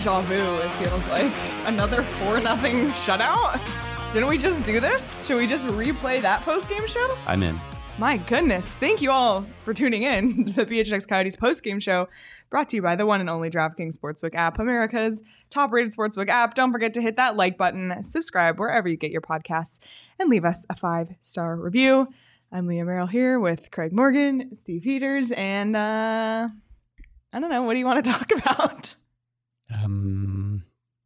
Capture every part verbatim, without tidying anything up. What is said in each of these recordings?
deja vu, it feels like. Another four nothing shutout? Didn't we just do this? Should we just replay that post-game show? I'm in. My goodness. Thank you all for tuning in to the B H X Coyotes post-game show, brought to you by the one and only DraftKings Sportsbook app, America's top-rated sportsbook app. Don't forget to hit that like button, subscribe wherever you get your podcasts, and leave us a five-star review. I'm Leah Merrill here with Craig Morgan, Steve Peters, and uh, I don't know. What do you want to talk about? Um,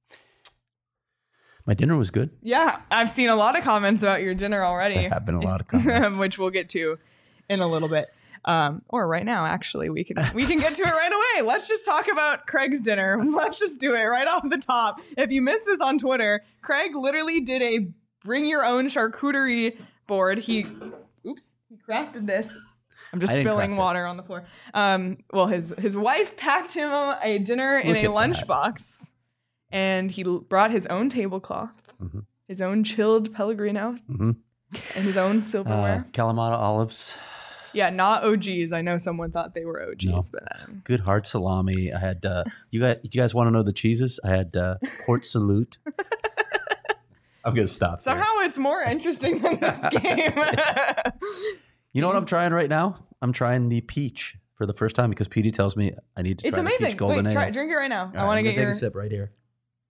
my dinner was good. Yeah, I've seen a lot of comments about your dinner already. There have been a lot of comments. Which we'll get to in a little bit. Um, or right now, actually. We can we can get to it right away. Let's just talk about Craig's dinner. Let's just do it right off the top. If you missed this on Twitter, Craig literally did a bring your own charcuterie board. He, oops, he crafted this. I'm just spilling water on the floor. Um, well, his his wife packed him a dinner in a lunchbox, and he l- brought his own tablecloth, mm-hmm. his own chilled Pellegrino, mm-hmm. and his own silverware. Uh, Kalamata olives. Yeah, not O Gs. I know someone thought they were O Gs, no. but um... good hard salami. I had. Uh, you guys, you guys want to know the cheeses? I had uh, Port Salute. I'm gonna stop. Somehow there. It's more interesting than this game. You know what I'm trying right now? I'm trying the peach for the first time because Petey tells me I need to it's try amazing. the peach golden Wait, ale. Try, drink it right now. All I want right, to get take your... a sip right here.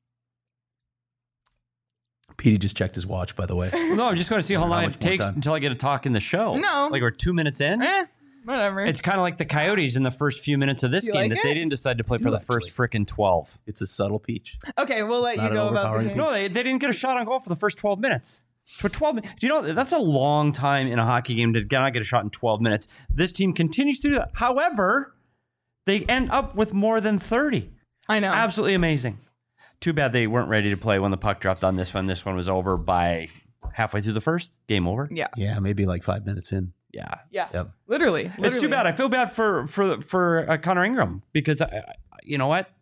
Petey just checked his watch, by the way. Well, no, I'm just going to see how long how it takes time. until I get to talk in the show. No. Like we're two minutes in? Eh, whatever. It's kind of like the Coyotes in the first few minutes of this you game like that it? they didn't decide to play for No, the actually. first frickin' twelve. It's a subtle peach. Okay, we'll let It's you not go an about the overpowering game. No, they, they didn't get a shot on goal for the first twelve minutes. For twelve minutes. Do you know, that's a long time in a hockey game to not get a shot in twelve minutes. This team continues to do that. However, they end up with more than thirty. I know. Absolutely amazing. Too bad they weren't ready to play when the puck dropped on this one. This one was over by halfway through the first. Game over. Yeah. Yeah, maybe like five minutes in. Yeah. Yeah. Yep. Literally, literally. It's too bad. I feel bad for for for uh, Connor Ingram because I, I, you know what?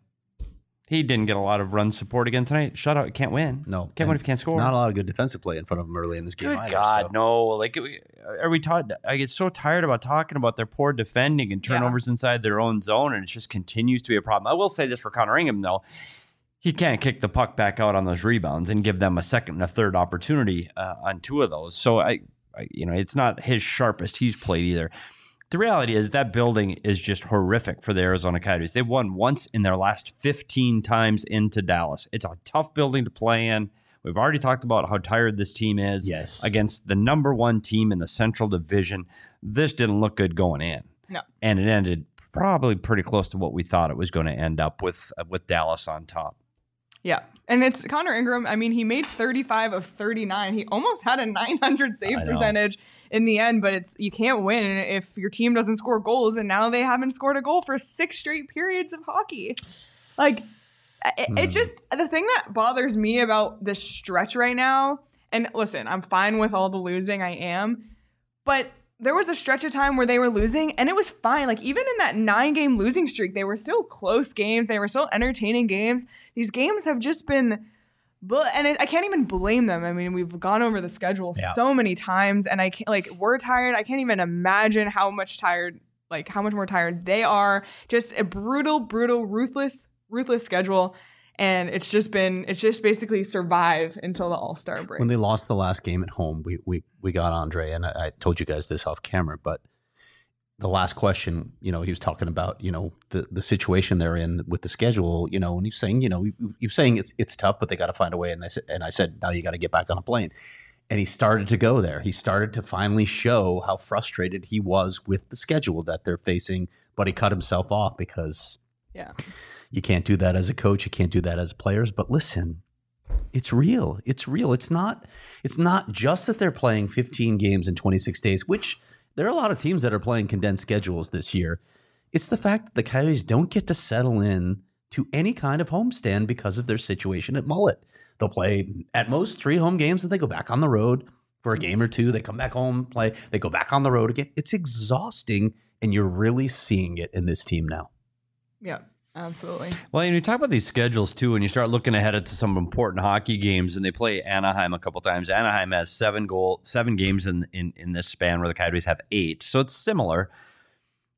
He didn't get a lot of run support again tonight. Shutout, can't win. No, can't win if you can't score. Not a lot of good defensive play in front of him early in this game. Good either, God, so. no! Like, are we taught? I get so tired about talking about their poor defending and turnovers yeah. inside their own zone, and it just continues to be a problem. I will say this for Connor Ingram, though. He can't kick the puck back out on those rebounds and give them a second and a third opportunity uh, on two of those. So, I, I, you know, it's not his sharpest he's played either. The reality is that building is just horrific for the Arizona Coyotes. They've won once in their last fifteen times into Dallas. It's a tough building to play in. We've already talked about how tired this team is yes. against the number one team in the Central Division. This didn't look good going in. No. And it ended probably pretty close to what we thought it was going to end up with, uh, with Dallas on top. Yeah. And it's Connor Ingram. I mean, he made thirty-five of thirty-nine. He almost had a nine hundred save percentage in the end, but it's you can't win if your team doesn't score goals, and now they haven't scored a goal for six straight periods of hockey. Like, it, it just, the thing that bothers me about this stretch right now, and listen, I'm fine with all the losing, I am, but there was a stretch of time where they were losing, and it was fine. Like, even in that nine-game losing streak, they were still close games. They were still entertaining games. These games have just been... And it, I can't even blame them. I mean, we've gone over the schedule yeah. so many times, and I can't, like, we're tired. I can't even imagine how much tired, like, how much more tired they are. Just a brutal, brutal, ruthless, ruthless schedule. And it's just been, it's just basically survive until the All-Star break. When they lost the last game at home, we we we got Andre, and I, I told you guys this off camera, but the last question, you know, he was talking about, you know, the, the situation they're in with the schedule, you know, and he's saying, you know, he, he was saying it's it's tough, but they got to find a way. And I said, and I said, now you got to get back on a plane. And he started to go there. He started to finally show how frustrated he was with the schedule that they're facing, but he cut himself off because yeah, you can't do that as a coach. You can't do that as players. But listen, it's real. It's real. It's not. It's not just that they're playing fifteen games in twenty-six days, which there are a lot of teams that are playing condensed schedules this year. It's the fact that the Coyotes don't get to settle in to any kind of homestand because of their situation at Mullet. They'll play at most three home games and they go back on the road for a game or two. They come back home, play. They go back on the road again. It's exhausting, and you're really seeing it in this team now. Yeah. Absolutely. Well, and you talk about these schedules too, and you start looking ahead to some important hockey games, and they play Anaheim a couple times. Anaheim has seven goal, seven games in, in, in this span, where the Coyotes have eight, so it's similar.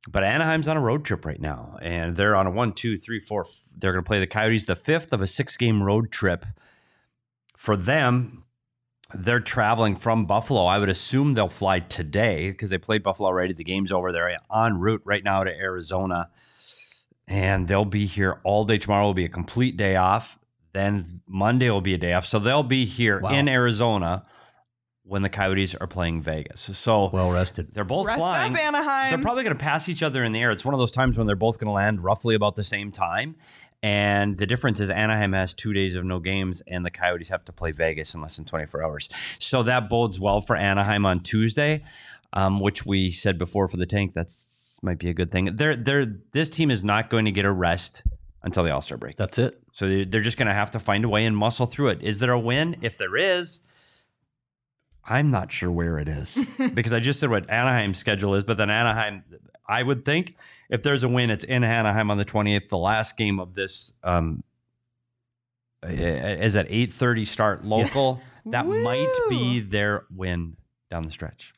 But Anaheim's on a road trip right now, and they're on a one, two, three, four. They're going to play the Coyotes, the fifth of a six-game road trip. For them, they're traveling from Buffalo. I would assume they'll fly today because they played Buffalo already. The game's over. They're en route right now to Arizona, and they'll be here all day. Tomorrow will be a complete day off. Then Monday will be a day off. So they'll be here wow. in Arizona when the Coyotes are playing Vegas. So well rested. They're both Rest flying. Up, Anaheim. They're probably going to pass each other in the air. It's one of those times when they're both going to land roughly about the same time. And the difference is Anaheim has two days of no games, and the Coyotes have to play Vegas in less than twenty-four hours. So that bodes well for Anaheim on Tuesday, um, which we said before for the tank. That's might be a good thing. They're, they're, this team is not going to get a rest until the All-Star break. That's it. So they're just going to have to find a way and muscle through it. Is there a win? If there is, I'm not sure where it is because I just said what Anaheim's schedule is, but then Anaheim, I would think if there's a win, it's in Anaheim on the twentieth. The last game of this um, is at eight thirty start local. Yes. That Woo. Might be their win down the stretch.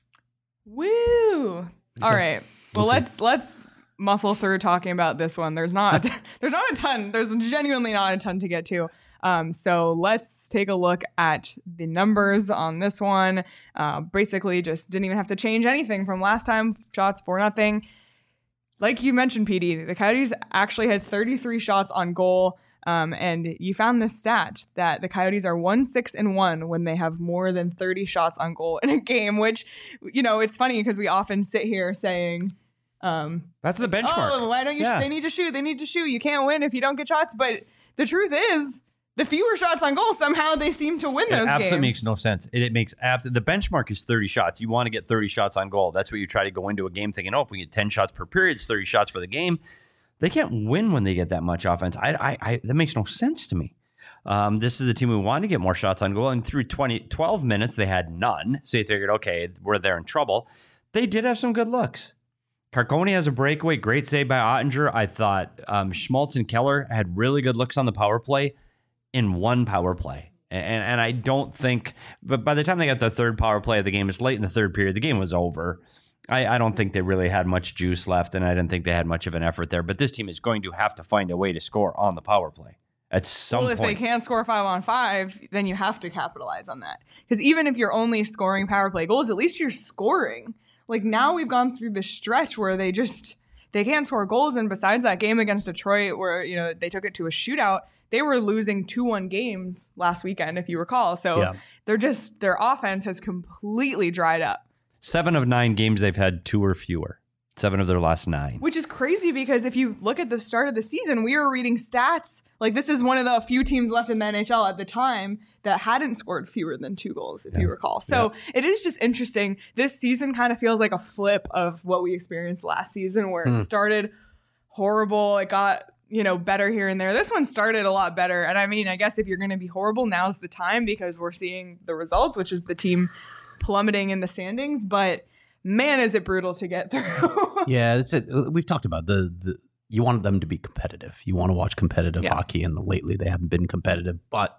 Woo! All right. Well, let's let's muscle through talking about this one. There's not there's not a ton. There's genuinely not a ton to get to. Um, so let's take a look at the numbers on this one. Uh, basically, just didn't even have to change anything from last time. Shots for nothing. Like you mentioned, P D, the Coyotes actually had thirty-three shots on goal. Um, and you found this stat that the Coyotes are one, six, and one when they have more than thirty shots on goal in a game, which, you know, it's funny because we often sit here saying, um, that's the benchmark. Oh, why don't you, yeah. sh- they need to shoot. They need to shoot. You can't win if you don't get shots. But the truth is, the fewer shots on goal, somehow they seem to win those games. It absolutely makes no sense. It, it makes ab- the benchmark is thirty shots. You want to get thirty shots on goal. That's what you try to go into a game thinking, oh, if we get ten shots per period, it's thirty shots for the game. They can't win when they get that much offense. I, I, I that makes no sense to me. Um, this is a team who wanted to get more shots on goal, and through twenty, twelve minutes, they had none. So you figured, okay, we're there in trouble. They did have some good looks. Carcone has a breakaway, great save by Ottinger. I thought um, Schmaltz and Keller had really good looks on the power play in one power play. And, and I don't think, but by the time they got the third power play of the game, it's late in the third period, the game was over. I, I don't think they really had much juice left, and I didn't think they had much of an effort there. But this team is going to have to find a way to score on the power play at some well, point. Well, if they can't score five on five, then you have to capitalize on that. Because even if you're only scoring power play goals, at least you're scoring. Like now we've gone through the stretch where they just they can't score goals, and besides that game against Detroit, where you know they took it to a shootout, they were losing two one games last weekend, if you recall. So yeah. they're just their offense has completely dried up. Seven of nine games they've had two or fewer. Seven of their last nine. Which is crazy because if you look at the start of the season, we were reading stats. Like this is one of the few teams left in the N H L at the time that hadn't scored fewer than two goals, if yeah. you recall. So yeah. it is just interesting. This season kind of feels like a flip of what we experienced last season where mm. it started horrible. It got, you know, better here and there. This one started a lot better. And I mean, I guess if you're going to be horrible, now's the time because we're seeing the results, which is the team plummeting in the standings, but man, is it brutal to get through. yeah, it's it. We've talked about the, the you want them to be competitive. You want to watch competitive yeah. hockey, and lately they haven't been competitive. But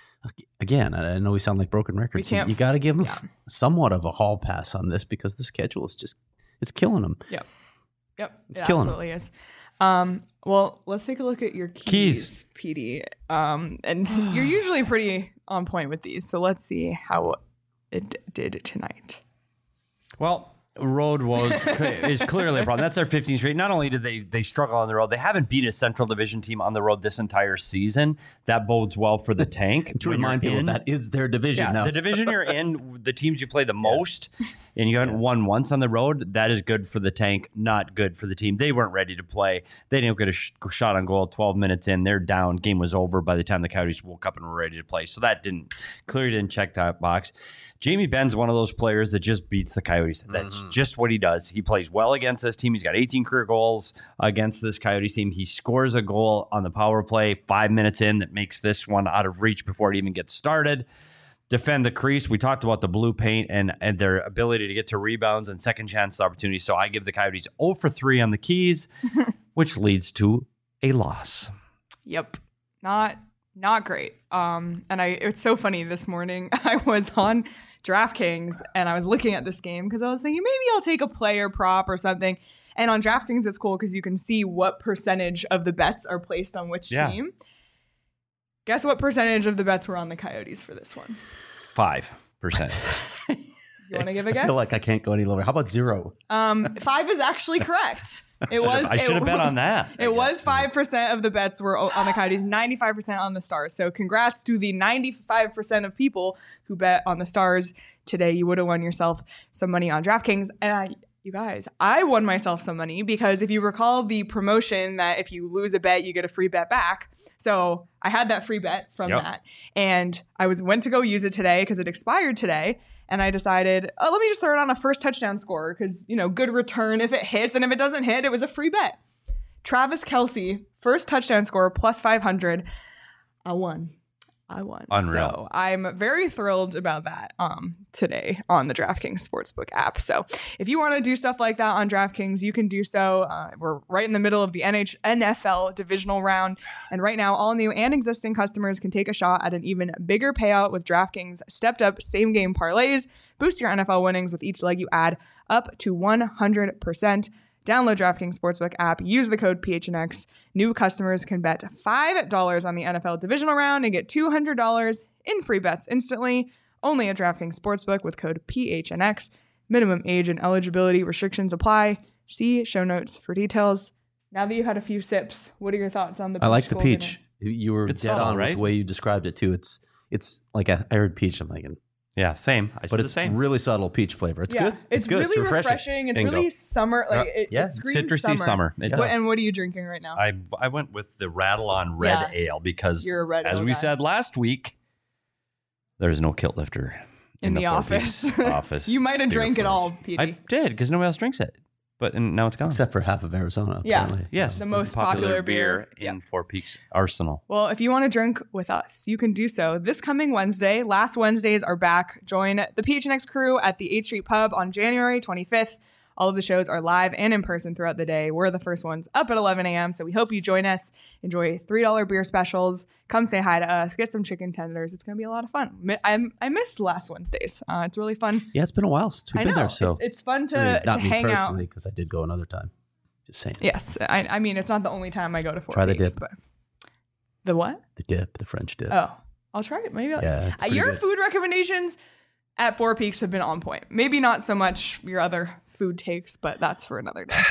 again, I know we sound like broken records. You, you got to give them yeah. somewhat of a hall pass on this because the schedule is just it's killing them. Yep, yep, it's it killing absolutely them. is. Um, well, let's take a look at your keys, keys. P D. Um, and you're usually pretty on point with these, so let's see how it did tonight. Well, road was is clearly a problem. That's their fifteenth straight. Not only did they they struggle on the road, they haven't beat a Central Division team on the road this entire season. That bodes well for the tank. To remind people, in, that is their division yeah, now. The division you're in, the teams you play the most, yeah. and you haven't yeah. won once on the road, that is good for the tank, not good for the team. They weren't ready to play. They didn't get a sh- shot on goal twelve minutes in. They're down. Game was over by the time the Coyotes woke up and were ready to play. So that didn't clearly didn't check that box. Jamie Benn's one of those players that just beats the Coyotes. That's mm-hmm. just what he does. He plays well against this team. He's got eighteen career goals against this Coyotes team. He scores a goal on the power play five minutes in that makes this one out of reach before it even gets started. Defend the crease. We talked about the blue paint and, and their ability to get to rebounds and second chance opportunities. So I give the Coyotes zero for three on the keys, which leads to a loss. Yep. Not Not great. Um, and I it's so funny. This morning I was on DraftKings and I was looking at this game because I was thinking maybe I'll take a player prop or something. And on DraftKings it's cool because you can see what percentage of the bets are placed on which Yeah. team. Guess what percentage of the bets were on the Coyotes for this one? Five percent. You want to give a guess? I feel like I can't go any lower. How about zero? Um, five is actually correct. It was. I should have bet on that. It was five percent of the bets were on the Coyotes, ninety-five percent on the Stars. So congrats to the ninety-five percent of people who bet on the Stars today. You would have won yourself some money on DraftKings. And I, you guys, I won myself some money because if you recall the promotion that if you lose a bet, you get a free bet back. So I had that free bet from Yep. that. And I was went to go use it today because it expired today. And I decided, oh, let me just throw it on a first touchdown scorer because, you know, good return if it hits. And if it doesn't hit, it was a free bet. Travis Kelce, first touchdown scorer, plus five hundred. I won. I won. Unreal. So I'm very thrilled about that um, today on the DraftKings Sportsbook app. So if you want to do stuff like that on DraftKings, you can do so. Uh, we're right in the middle of the N H- N F L divisional round. And right now, all new and existing customers can take a shot at an even bigger payout with DraftKings stepped up same game parlays. Boost your N F L winnings with each leg you add up to one hundred percent. Download DraftKings Sportsbook app, use the code P H N X. New customers can bet five dollars on the N F L divisional round and get two hundred dollars in free bets instantly. Only at DraftKings Sportsbook with code P H N X. Minimum age and eligibility restrictions apply. See show notes for details. Now that you've had a few sips, what are your thoughts on the peach? I like the golden peach. ale? You were It's dead subtle, on with right? the way you described it too. It's it's like I, I heard peach. I'm thinking, Yeah, same. I but said the it's same. really subtle peach flavor. It's Yeah, good. It's, good. really it's refreshing. It's Bingo. really summer. Like it, Yeah. it screams Citrusy summer. summer. It Yeah. What, does. and what are you drinking right now? I I went with the Rattle On Red Yeah. Ale because, You're a red as ale we guy. said last week, there's no kilt lifter in, the, Four office. Peaks office. You might have beer drank it fridge. all, Petey. I did because nobody else drinks it, but and now it's gone. Except for half of Arizona. Yeah. Apparently. yes, The most popular beer. in Four Peaks Arsenal. Well, if you want to drink with us, you can do so this coming Wednesday. Last Wednesdays are back. Join the P H N X crew at the eighth Street Pub on January twenty-fifth. All of the shows are live and in person throughout the day. We're the first ones up at eleven a.m., so we hope you join us. Enjoy three dollar beer specials. Come say hi to us. Get some chicken tenders. It's going to be a lot of fun. Mi- I'm, I missed last Wednesdays. Uh, it's really fun. Yeah, it's been a while since we've I been know. there. So it's, it's fun to, I mean, to not me hang out. personally because I did go another time. Just saying. Yes. I, I mean, it's not the only time I go to Four Try the Peaks, dip. but the what? The dip, the French dip. Oh, I'll try it. Maybe. I'll, Yeah, it's Uh, pretty your good. food recommendations at Four Peaks have been on point. Maybe not so much your other food takes, but that's for another day.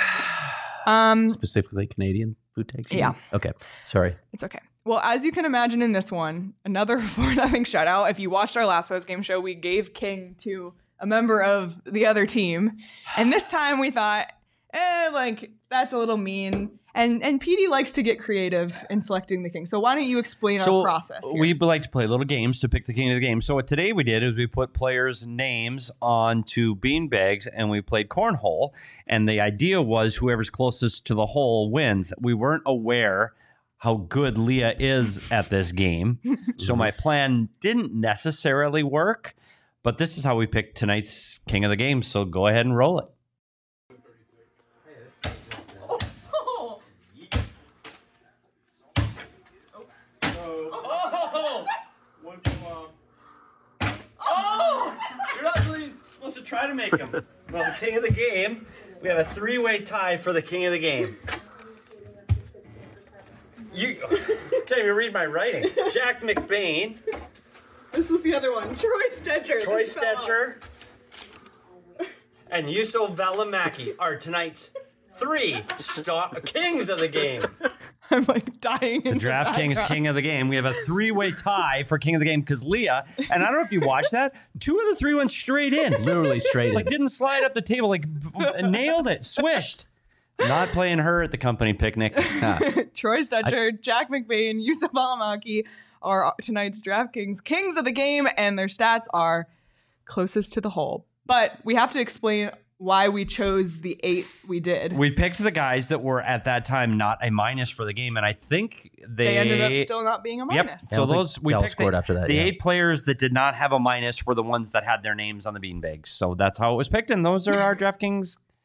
Um, Specifically Canadian food takes. you Yeah. mean? Okay. Sorry. it's okay. Well, as you can imagine in this one, another four nothing shutout. If you watched our last post game show, we gave King to a member of the other team, and this time we thought, eh, like that's a little mean. And and P D likes to get creative in selecting the king. So why don't you explain So our process here? we like to play little games to pick the king of the game. So what today we did is we put players' names onto bean bags and we played cornhole. And the idea was whoever's closest to the hole wins. We weren't aware how good Leah is at this game, so my plan didn't necessarily work. But this is how we picked tonight's king of the game. So go ahead and roll it. Oh! Oh! You're not really supposed to try to make him. Well, the king of the game, we have a three-way tie for the king of the game. You can't even read my writing. Jack McBain, This was the other one. Troy Stetcher. Troy This fell off. Stetcher, and Yusuf Valimaki are tonight's three stop kings of the game. I'm like dying. The DraftKings King of the Game. We have a three-way tie for King of the Game because Leah, and I don't know if you watched that, two of the three went straight in. Literally straight Like in. didn't slide up the table, like b- nailed it, swished. Not playing her at the company picnic. Troy Stetcher, Jack McBain, Yusuf Alamaki are tonight's DraftKings Kings of the Game, and their stats are closest to the hole. But we have to explain why we chose the eight we did. We picked the guys that were at that time not a minus for the game, and I think they, they ended up still not being a Yep. minus. I So don't think those we Dell picked scored the, after that, the yeah. eight players that did not have a minus were the ones that had their names on the beanbags. So that's how it was picked, and those are our DraftKings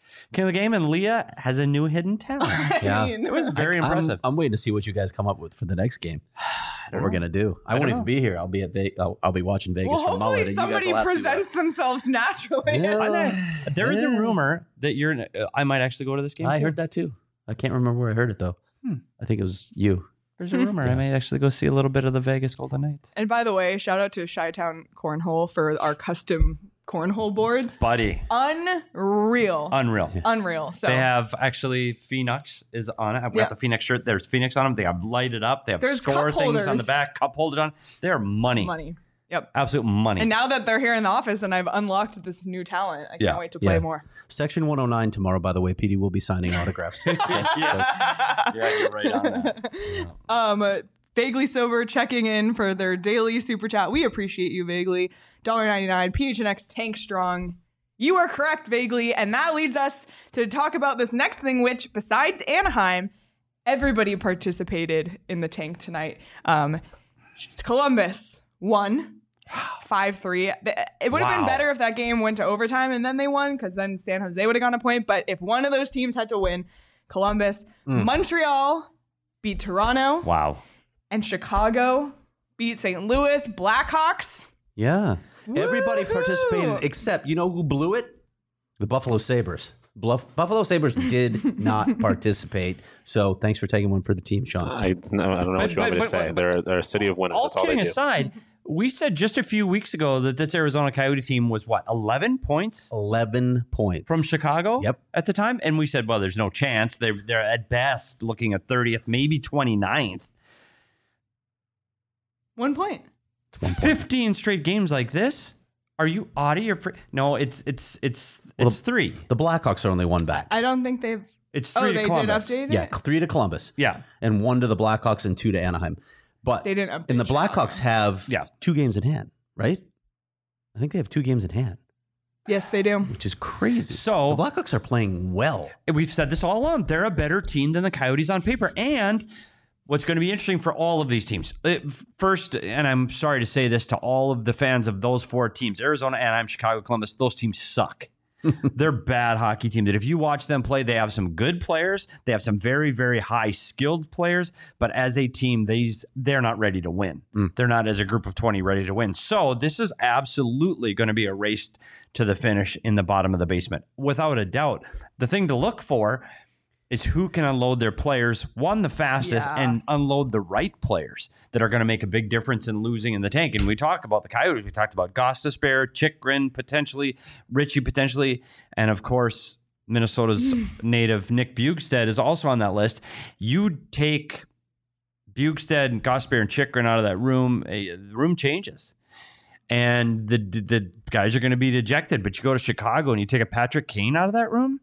King of the Game, and Leah has a new hidden talent. Yeah. I mean, It was very I'm- impressive. I'm, waiting to see what you guys come up with for the next game. What we're know. gonna do? I, I won't don't even know. be here. I'll be at Ve- I'll, I'll be watching Vegas well, from Mullet. hopefully and you guys somebody will have to, uh, presents themselves naturally. Yeah. I know. There is a Yeah. rumor that you're. in- Uh, I might actually go to this game. I too. heard that too. I can't remember where I heard it though. Hmm. I think it was you. There's a rumor I might actually go see a little bit of the Vegas Golden Knights. And by the way, shout out to Chi-Town Cornhole for our custom cornhole boards. Buddy, Unreal. unreal. Unreal. So They have actually Phoenix is on it. I've got Yeah. the Phoenix shirt. There's Phoenix on them. They have lighted up. They have There's score cup things on the holders. back, cup holders on. They're money. money. Yep. Absolute money. And now that they're here in the office and I've unlocked this new talent, I can't Yeah. wait to play Yeah. more. Section one oh nine tomorrow, by the way. P D will be signing autographs. yeah. yeah, you're right on that. Yeah. Um, uh, Vaguely Sober checking in for their daily super chat. We appreciate you, Vaguely. one ninety-nine. P H N X Tank Strong. You are correct, Vaguely. And that leads us to talk about this next thing, which, besides Anaheim, everybody participated in the tank tonight. Um, Columbus won five three. It would have Wow. been better if that game went to overtime and then they won, because then San Jose would have gone a point. But if one of those teams had to win, Columbus, Montreal beat Toronto, Wow. and Chicago beat Saint Louis Blackhawks. Yeah. Everybody Woohoo! participated except, you know who blew it? The Buffalo Sabres. Bluff, Buffalo Sabres did not participate. So thanks for taking one for the team, Sean. I, no, I don't know what But- you want me but- to say. but- They're, they're a city of winners. All That's all they kidding do. aside, we said just a few weeks ago that this Arizona Coyote team was what, eleven points eleven points. from Chicago Yep. at the time? And we said, well, there's no chance. They're, they're at best looking at thirtieth, maybe twenty-ninth. One point. One point. fifteen straight games like this? Are you out of your... Fr- no, it's it's it's it's Well, three. The Blackhawks are only one back. I don't think they've. It's Oh, three they to Columbus. did update it? Yeah, three to Columbus. Yeah. And one to the Blackhawks and two to Anaheim. But They didn't update and the Blackhawks Chicago. have Yeah. two games in hand, right? I think they have two games in hand, Yes, they do. which is crazy. So- the Blackhawks are playing well. We've said this all along. They're a better team than the Coyotes on paper. And what's going to be interesting for all of these teams, uh, first, and I'm sorry to say this to all of the fans of those four teams, Arizona, Anaheim, Chicago, Columbus, those teams suck. They're bad hockey teams. That if you watch them play, they have some good players. They have some very, very high skilled players. But as a team, these they're not ready to win. Mm. They're not as a group of twenty ready to win. So this is absolutely going to be a race to the finish in the bottom of the basement, without a doubt. The thing to look for is who can unload their players, one, the fastest, Yeah. and unload the right players that are going to make a big difference in losing in the tank. And we talk about the Coyotes. We talked about Gostisbehere, Chikrin potentially, Richie potentially, and of course, Minnesota's native Nick Bjugstad is also on that list. You take Bjugstad and Gostisbehere and Chikrin out of that room, eh, the room changes. And the the guys are going to be dejected. But you go to Chicago and you take a Patrick Kane out of that room,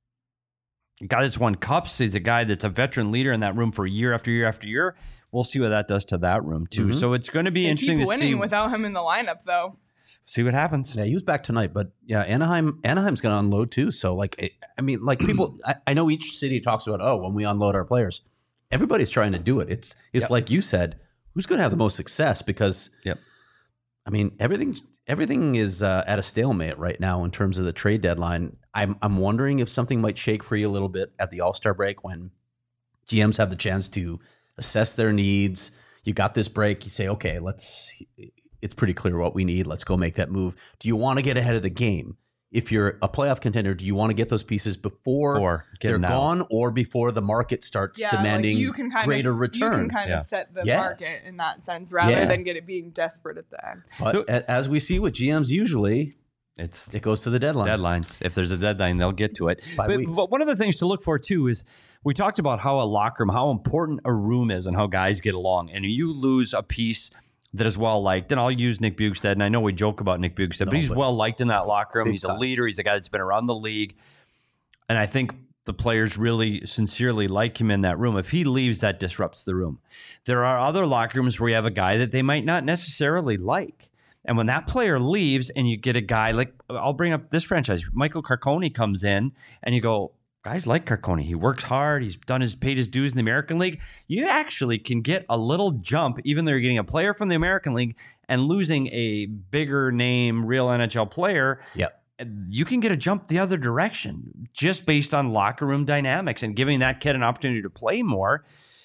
a guy that's won cups. He's a guy that's a veteran leader in that room for year after year after year. We'll see what that does to that room too. Mhm. So it's going to be They interesting keep to winning see without him in the lineup, though. see what happens. Yeah, he was back tonight, but yeah, Anaheim Anaheim's going to unload too. So like, it, I mean, like people, I, I know each city talks about, oh, when we unload our players, everybody's trying to do it. It's it's Yep. like you said, who's going to have the most success? Because Yep. I mean, everything's everything is uh, at a stalemate right now in terms of the trade deadline. I'm I'm wondering if something might shake for you a little bit at the All-Star break when G Ms have the chance to assess their needs. You got this break, you say, okay, let's. It's pretty clear what we need. Let's go make that move. Do you want to get ahead of the game? If you're a playoff contender, do you want to get those pieces before Or get they're them out. gone, or before the market starts Yeah, demanding like you can kind greater of, return? You can kind Yeah. of set the Yes. market in that sense, rather Yeah. than get it being desperate at the end. But So- a- as we see with G Ms, usually It's it goes to the deadline. deadlines. If there's a deadline, they'll get to it. Five But, weeks. but one of the things to look for too is we talked about how a locker room, how important a room is, and how guys get along. And you lose a piece that is well liked, and I'll use Nick Bjugstad. And I know we joke about Nick Bjugstad, No, but he's but- well liked in that locker room. Big He's a time. leader. He's a guy that's been around the league, and I think the players really sincerely like him in that room. If he leaves, that disrupts the room. There are other locker rooms where you have a guy that they might not necessarily like. And when that player leaves and you get a guy like, I'll bring up this franchise, Michael Carcone comes in and you go, guys like Carcone. He works hard. He's done his, paid his dues in the American League. You actually can get a little jump, even though you're getting a player from the American League and losing a bigger name, real N H L player. Yep. you can get a jump the other direction just based on locker room dynamics and giving that kid an opportunity to play more.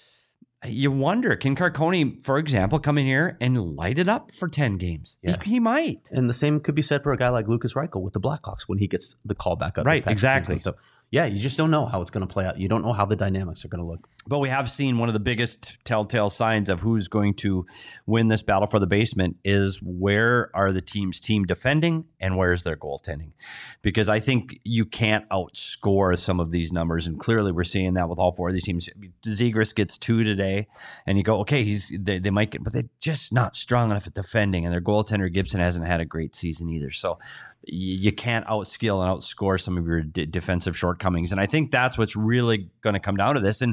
You wonder, can Carcone, for example, come in here and light it up for ten games? Yeah. He, he might. And the same could be said for a guy like Lucas Reichel with the Blackhawks when he gets the call back up. Right, exactly. So, yeah, you just don't know how it's going to play out. You don't know how the dynamics are going to look. But we have seen one of the biggest telltale signs of who's going to win this battle for the basement is where are the teams team defending and where's their goaltending? Because I think you can't outscore some of these numbers, and clearly we're seeing that with all four of these teams. Zegras gets two today, and you go, okay, he's they, they might get, but they're just not strong enough at defending, and their goaltender Gibson hasn't had a great season either. So you can't outskill and outscore some of your d- defensive shortcomings. And I think that's what's really going to come down to this. And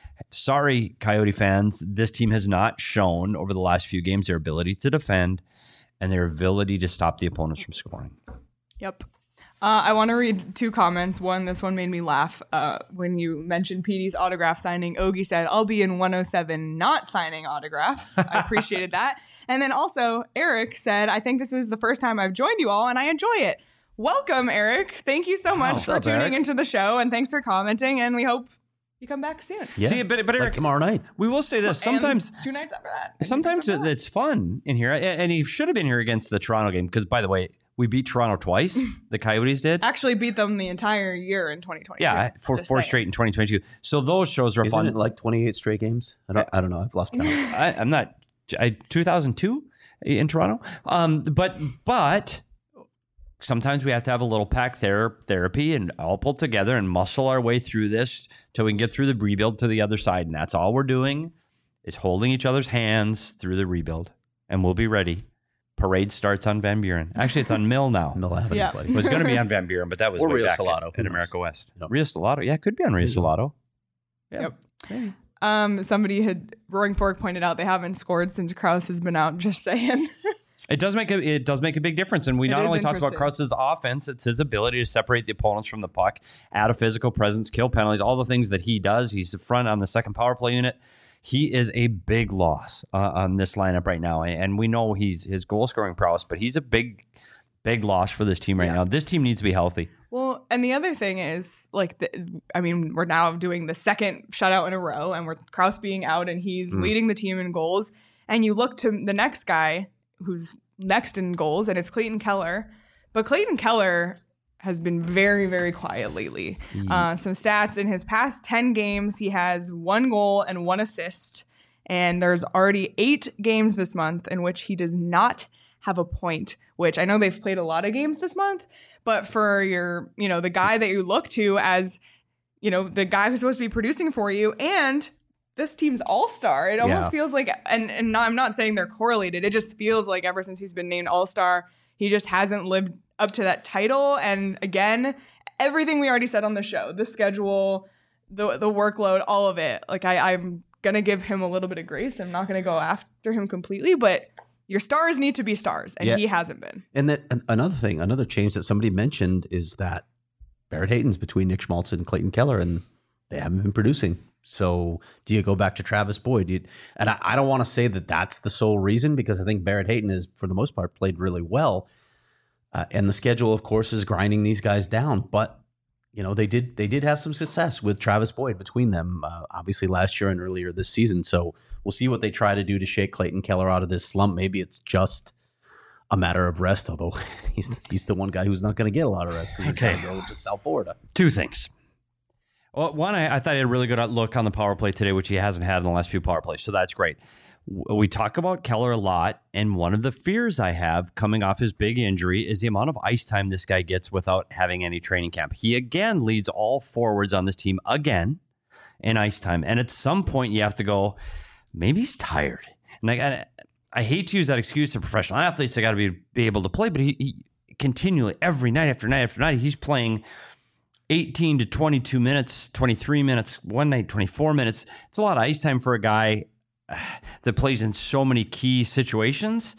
sorry, Coyote fans, this team has not shown over the last few games their ability to defend and their ability to stop the opponents from scoring. Yep. Uh, I want to read two comments. One, this one made me laugh. Uh, when you mentioned P D's autograph signing, Ogie said, I'll be in one oh seven not signing autographs. I appreciated that. And then also, Eric said, I think this is the first time I've joined you all, and I enjoy it. Welcome, Eric. Thank you so much What's for up, tuning Eric? into the show, and thanks for commenting, and we hope you come back soon. Yeah. See, but, but like Eric, tomorrow night. we will say this. Sometimes, And two nights after that. and sometimes two nights after that. it's fun in here. And he should have been here against the Toronto game because, by the way, we beat Toronto twice. The Coyotes did. Actually beat them the entire year in twenty twenty-two. Yeah, for Just four saying. straight in twenty twenty-two. So those shows are Isn't fun. it like twenty-eight straight games? I don't, I don't know. I've lost count. I, I'm not. I, two thousand two in Toronto. Um, but but sometimes we have to have a little pack ther- therapy and all pull together and muscle our way through this till we can get through the rebuild to the other side. And that's all we're doing is holding each other's hands through the rebuild, and we'll be ready. Parade starts on Van Buren. Actually, it's on Mill now. Mill Avenue, Yeah. buddy. It was going to be on Van Buren, but that was Or way Rio back Salado. at, Who at knows? America West. Yep. Rio Salado. Yeah, it could be on Rio There you go. Salado. Yeah. Yep. Hey. Um, somebody had Roaring Fork pointed out they haven't scored since Krause has been out. Just saying. It does make a it does make a big difference, and we It not is only talked about interesting. Krause's offense; it's his ability to separate the opponents from the puck, add a physical presence, kill penalties, all the things that he does. He's the front on the second power play unit. He is a big loss uh, on this lineup right now, and we know he's his goal scoring prowess, but he's a big, big loss for this team right Yeah. now. This team needs to be healthy. Well, and the other thing is, like, the, I mean, we're now doing the second shutout in a row, and we're Krause being out, and he's Mm. leading the team in goals. And you look to the next guy who's next in goals, and it's Clayton Keller. But Clayton Keller has been very, very quiet lately. Uh, some stats in his past ten games, he has one goal and one assist. And there's already eight games this month in which he does not have a point, which I know they've played a lot of games this month, but for your, you know, the guy that you look to as, you know, the guy who's supposed to be producing for you and this team's all-star, it almost Yeah. feels like, and, and not, I'm not saying they're correlated, it just feels like ever since he's been named all-star, he just hasn't lived up to that title. And again, everything we already said on the show, the schedule, the the workload, all of it, like I, I'm going to give him a little bit of grace. I'm not going to go after him completely, but your stars need to be stars, and Yeah. he hasn't been. And that an- another thing, another change that somebody mentioned is that Barrett Hayton's between Nick Schmaltz and Clayton Keller, and they haven't been producing. So do you go back to Travis Boyd? Do you, and I, I don't want to say that that's the sole reason, because I think Barrett Hayton has, for the most part, played really well. Uh, and the schedule, of course, is grinding these guys down. But you know, they did they did have some success with Travis Boyd between them, uh, obviously last year and earlier this season. So we'll see what they try to do to shake Clayton Keller out of this slump. Maybe it's just a matter of rest, although he's he's the one guy who's not going to get a lot of rest because Okay. he's going to go to South Florida. Two things. Well, one, I, I thought he had a really good look on the power play today, which he hasn't had in the last few power plays. So that's great. W- We talk about Keller a lot, and one of the fears I have coming off his big injury is the amount of ice time this guy gets without having any training camp. He again leads all forwards on this team again in ice time. And at some point, you have to go, maybe he's tired. And I, I, I hate to use that excuse to professional athletes. They got to be, be able to play, but he, he continually, every night after night after night, he's playing eighteen to twenty-two minutes, twenty-three minutes, one night, twenty-four minutes. It's a lot of ice time for a guy uh, that plays in so many key situations.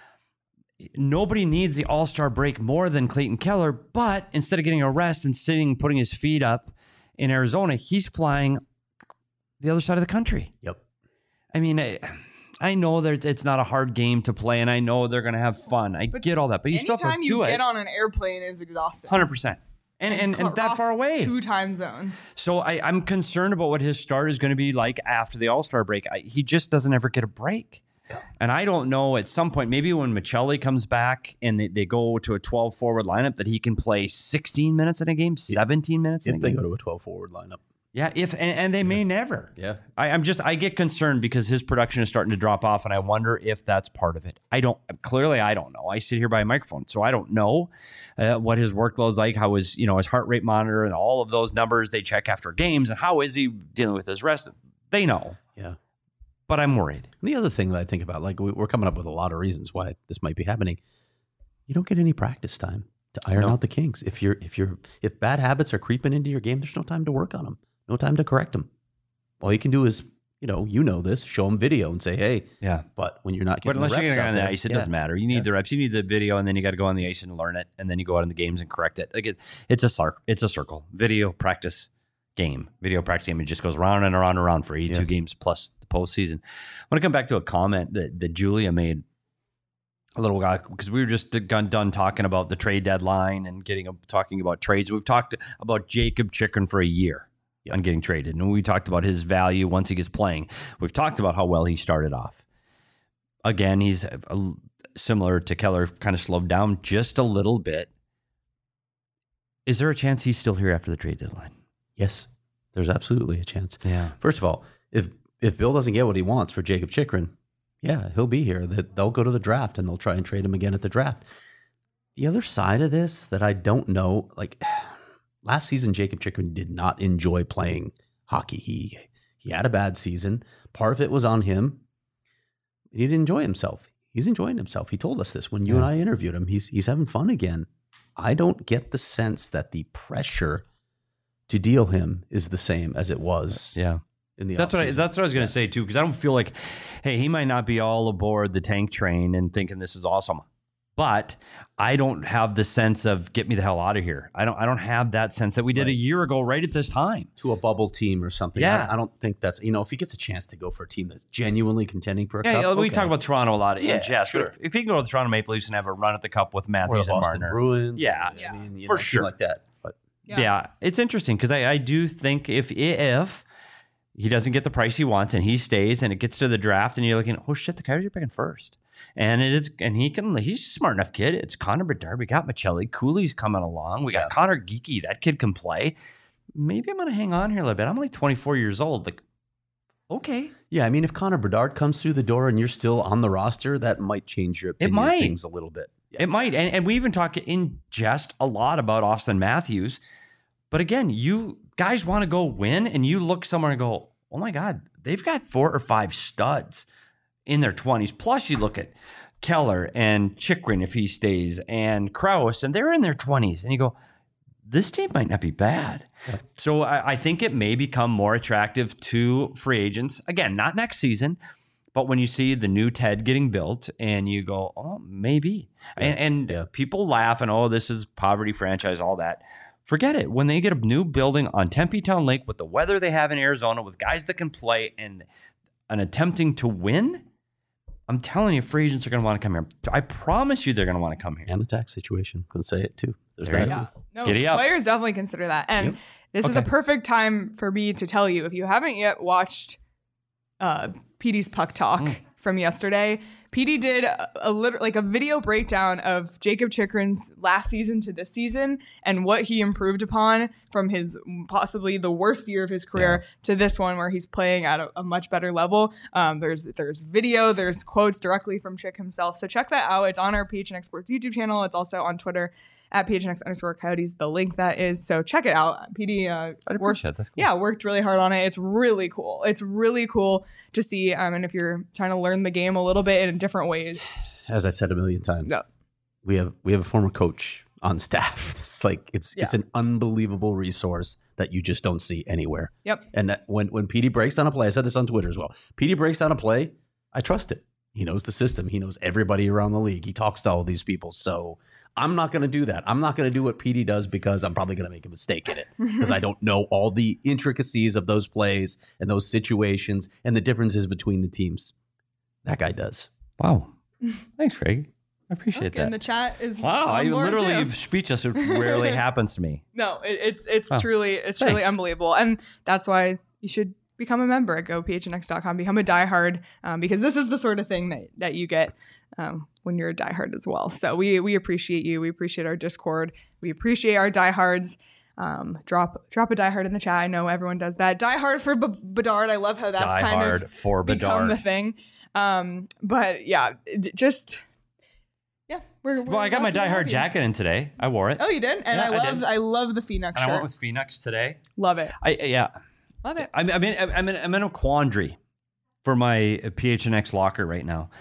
Nobody needs the all-star break more than Clayton Keller, but instead of getting a rest and sitting, putting his feet up in Arizona, he's flying the other side of the country. Yep. I mean, I, I know that it's not a hard game to play, and I know they're going to have fun. I but get all that, but you still have to do it. Anytime you get on an airplane is exhausting. one hundred percent. And, and, and, and that far away. Two time zones. So I, I'm concerned about what his start is going to be like after the All-Star break. I, he just doesn't ever get a break. And I don't know, at some point, maybe when Michelli comes back and they, they go to a twelve forward lineup, that he can play sixteen minutes in a game, seventeen minutes in if a they game. go to a twelve forward lineup. Yeah, if and, and they yeah. may never. Yeah. I, I'm just, I get concerned because his production is starting to drop off, and I wonder if that's part of it. I don't, clearly I don't know. I sit here by a microphone, so I don't know uh, what his workload's like, how his, you know, his heart rate monitor and all of those numbers they check after games, and how is he dealing with his rest. They know. Yeah. But I'm worried. And the other thing that I think about, like we're coming up with a lot of reasons why this might be happening. You don't get any practice time to iron no. out the kinks. If you're, if you're, if bad habits are creeping into your game, there's no time to work on them. No time to correct them. All you can do is, you know, you know this, show them video and say, hey, yeah. But when you're not getting but unless the reps you're going on the there, ice, it yeah. doesn't matter. You need yeah. the reps. You need the video, and then you got to go on the ice and learn it, and then you go out in the games and correct it. Like it, it's a circle. It's a circle. Video practice. Game, video practice game. It just goes round and around and around for eighty-two yeah. games plus the postseason. I want to come back to a comment that, that Julia made a little while because we were just done, done talking about the trade deadline and getting talking about trades. We've talked about Jakob Chychrun for a year yep. on getting traded, and we talked about his value once he gets playing. We've talked about how well he started off. Again, he's a, a, similar to Keller, kind of slowed down just a little bit. Is there a chance he's still here after the trade deadline? Yes, there's absolutely a chance. Yeah. First of all, if if Bill doesn't get what he wants for Jakob Chychrun, yeah, he'll be here. That they'll go to the draft and they'll try and trade him again at the draft. The other side of this that I don't know, like last season, Jakob Chychrun did not enjoy playing hockey. He he had a bad season. Part of it was on him. He didn't enjoy himself. He's enjoying himself. He told us this when you yeah. and I interviewed him. He's he's having fun again. I don't get the sense that the pressure to deal him is the same as it was. Yeah. In the that's what I, that's what I was going to yeah. say too, because I don't feel like, hey, he might not be all aboard the tank train and thinking this is awesome, but I don't have the sense of get me the hell out of here. I don't. I don't have that sense that we did right. a year ago, right at this time, to a bubble team or something. Yeah. I, I don't think that's, you know, if he gets a chance to go for a team that's genuinely contending for a yeah, cup. Yeah, we okay. talk about Toronto a lot. Yeah, in jest, sure. If, if he can go to the Toronto Maple Leafs and have a run at the cup with Matthews or and Boston Marner, Bruins, yeah, yeah. I mean, you for know, sure, like that. But yeah, yeah it's interesting because I, I do think if if he doesn't get the price he wants and he stays and it gets to the draft and you're looking, oh shit, the Coyotes are picking first. And it is, and he can, he's a smart enough kid. It's Connor Bedard. We got Michelli. Cooley's coming along. We got yeah. Connor Geeky. That kid can play. Maybe I'm going to hang on here a little bit. I'm only twenty-four years old. Like, okay. Yeah, I mean, if Connor Bedard comes through the door and you're still on the roster, that might change your opinion it might. of things a little bit. Yeah. It might. And, and we even talk in jest a lot about Austin Matthews. But again, you guys want to go win and you look somewhere and go, oh my God, they've got four or five studs in their twenties. Plus, you look at Keller and Chychrun if he stays, and Krause, and they're in their twenties. And you go, this team might not be bad. Yeah. So I, I think it may become more attractive to free agents. Again, not next season, but when you see the new Ted getting built and you go, oh, maybe. Yeah. And, and yeah. people laugh and, oh, this is poverty franchise, all that. Forget it. When they get a new building on Tempe Town Lake with the weather they have in Arizona, with guys that can play and, and attempting to win, I'm telling you, free agents are going to want to come here. I promise you they're going to want to come here. And the tax situation. Can say it too. There's there that. Yeah. Too. No, Giddy up. Players definitely consider that. And yep. this okay. is a perfect time for me to tell you, if you haven't yet watched uh, P D's Puck Talk mm. from yesterday, P D did a, a lit- like a video breakdown of Jakob Chychrun's last season to this season and what he improved upon from his possibly the worst year of his career yeah. to this one where he's playing at a, a much better level. Um, there's there's video, there's quotes directly from Chick himself. So check that out. It's on our P H N X Sports YouTube channel. It's also on Twitter at P H N X underscore Coyotes, the link that is. So check it out. P D uh, worked, That's cool. yeah, worked really hard on it. It's really cool. It's really cool to see. Um, and if you're trying to learn the game a little bit in different ways. As I've said a million times, yeah. we have we have a former coach on staff. It's like it's yeah. it's an unbelievable resource that you just don't see anywhere. Yep. And that when when P D breaks down a play, I said this on Twitter as well. P D breaks down a play, I trust it. He knows the system. He knows everybody around the league. He talks to all these people. So I'm not going to do that. I'm not going to do what P D does because I'm probably going to make a mistake in it because I don't know all the intricacies of those plays and those situations and the differences between the teams. That guy does. Wow. Thanks, Craig. I appreciate Okay, that. and the chat is wow, on I board literally too. speechless. It rarely happens to me. No, it, it's it's Oh, truly it's truly thanks. unbelievable, and that's why you should become a member at go p h n x dot com. Become a diehard, um, because this is the sort of thing that that you get um, when you're a diehard as well. So we we appreciate you. We appreciate our Discord. We appreciate our diehards. Um, drop drop a diehard in the chat. I know everyone does that. Diehard for B- Bedard. I love how that's Die kind hard of for become Bedard. the thing. Um, but yeah, it- just yeah. We're, we're Well, I got my happy to Die have Hard you. jacket in today. I wore it. Oh, you did, and Yeah, I I love did. I, love the Phoenix and I shirt. went with Phoenix today. Love it. I yeah. Love it. I'm, I'm, in, I'm, in, I'm in a quandary for my P H N X locker right now.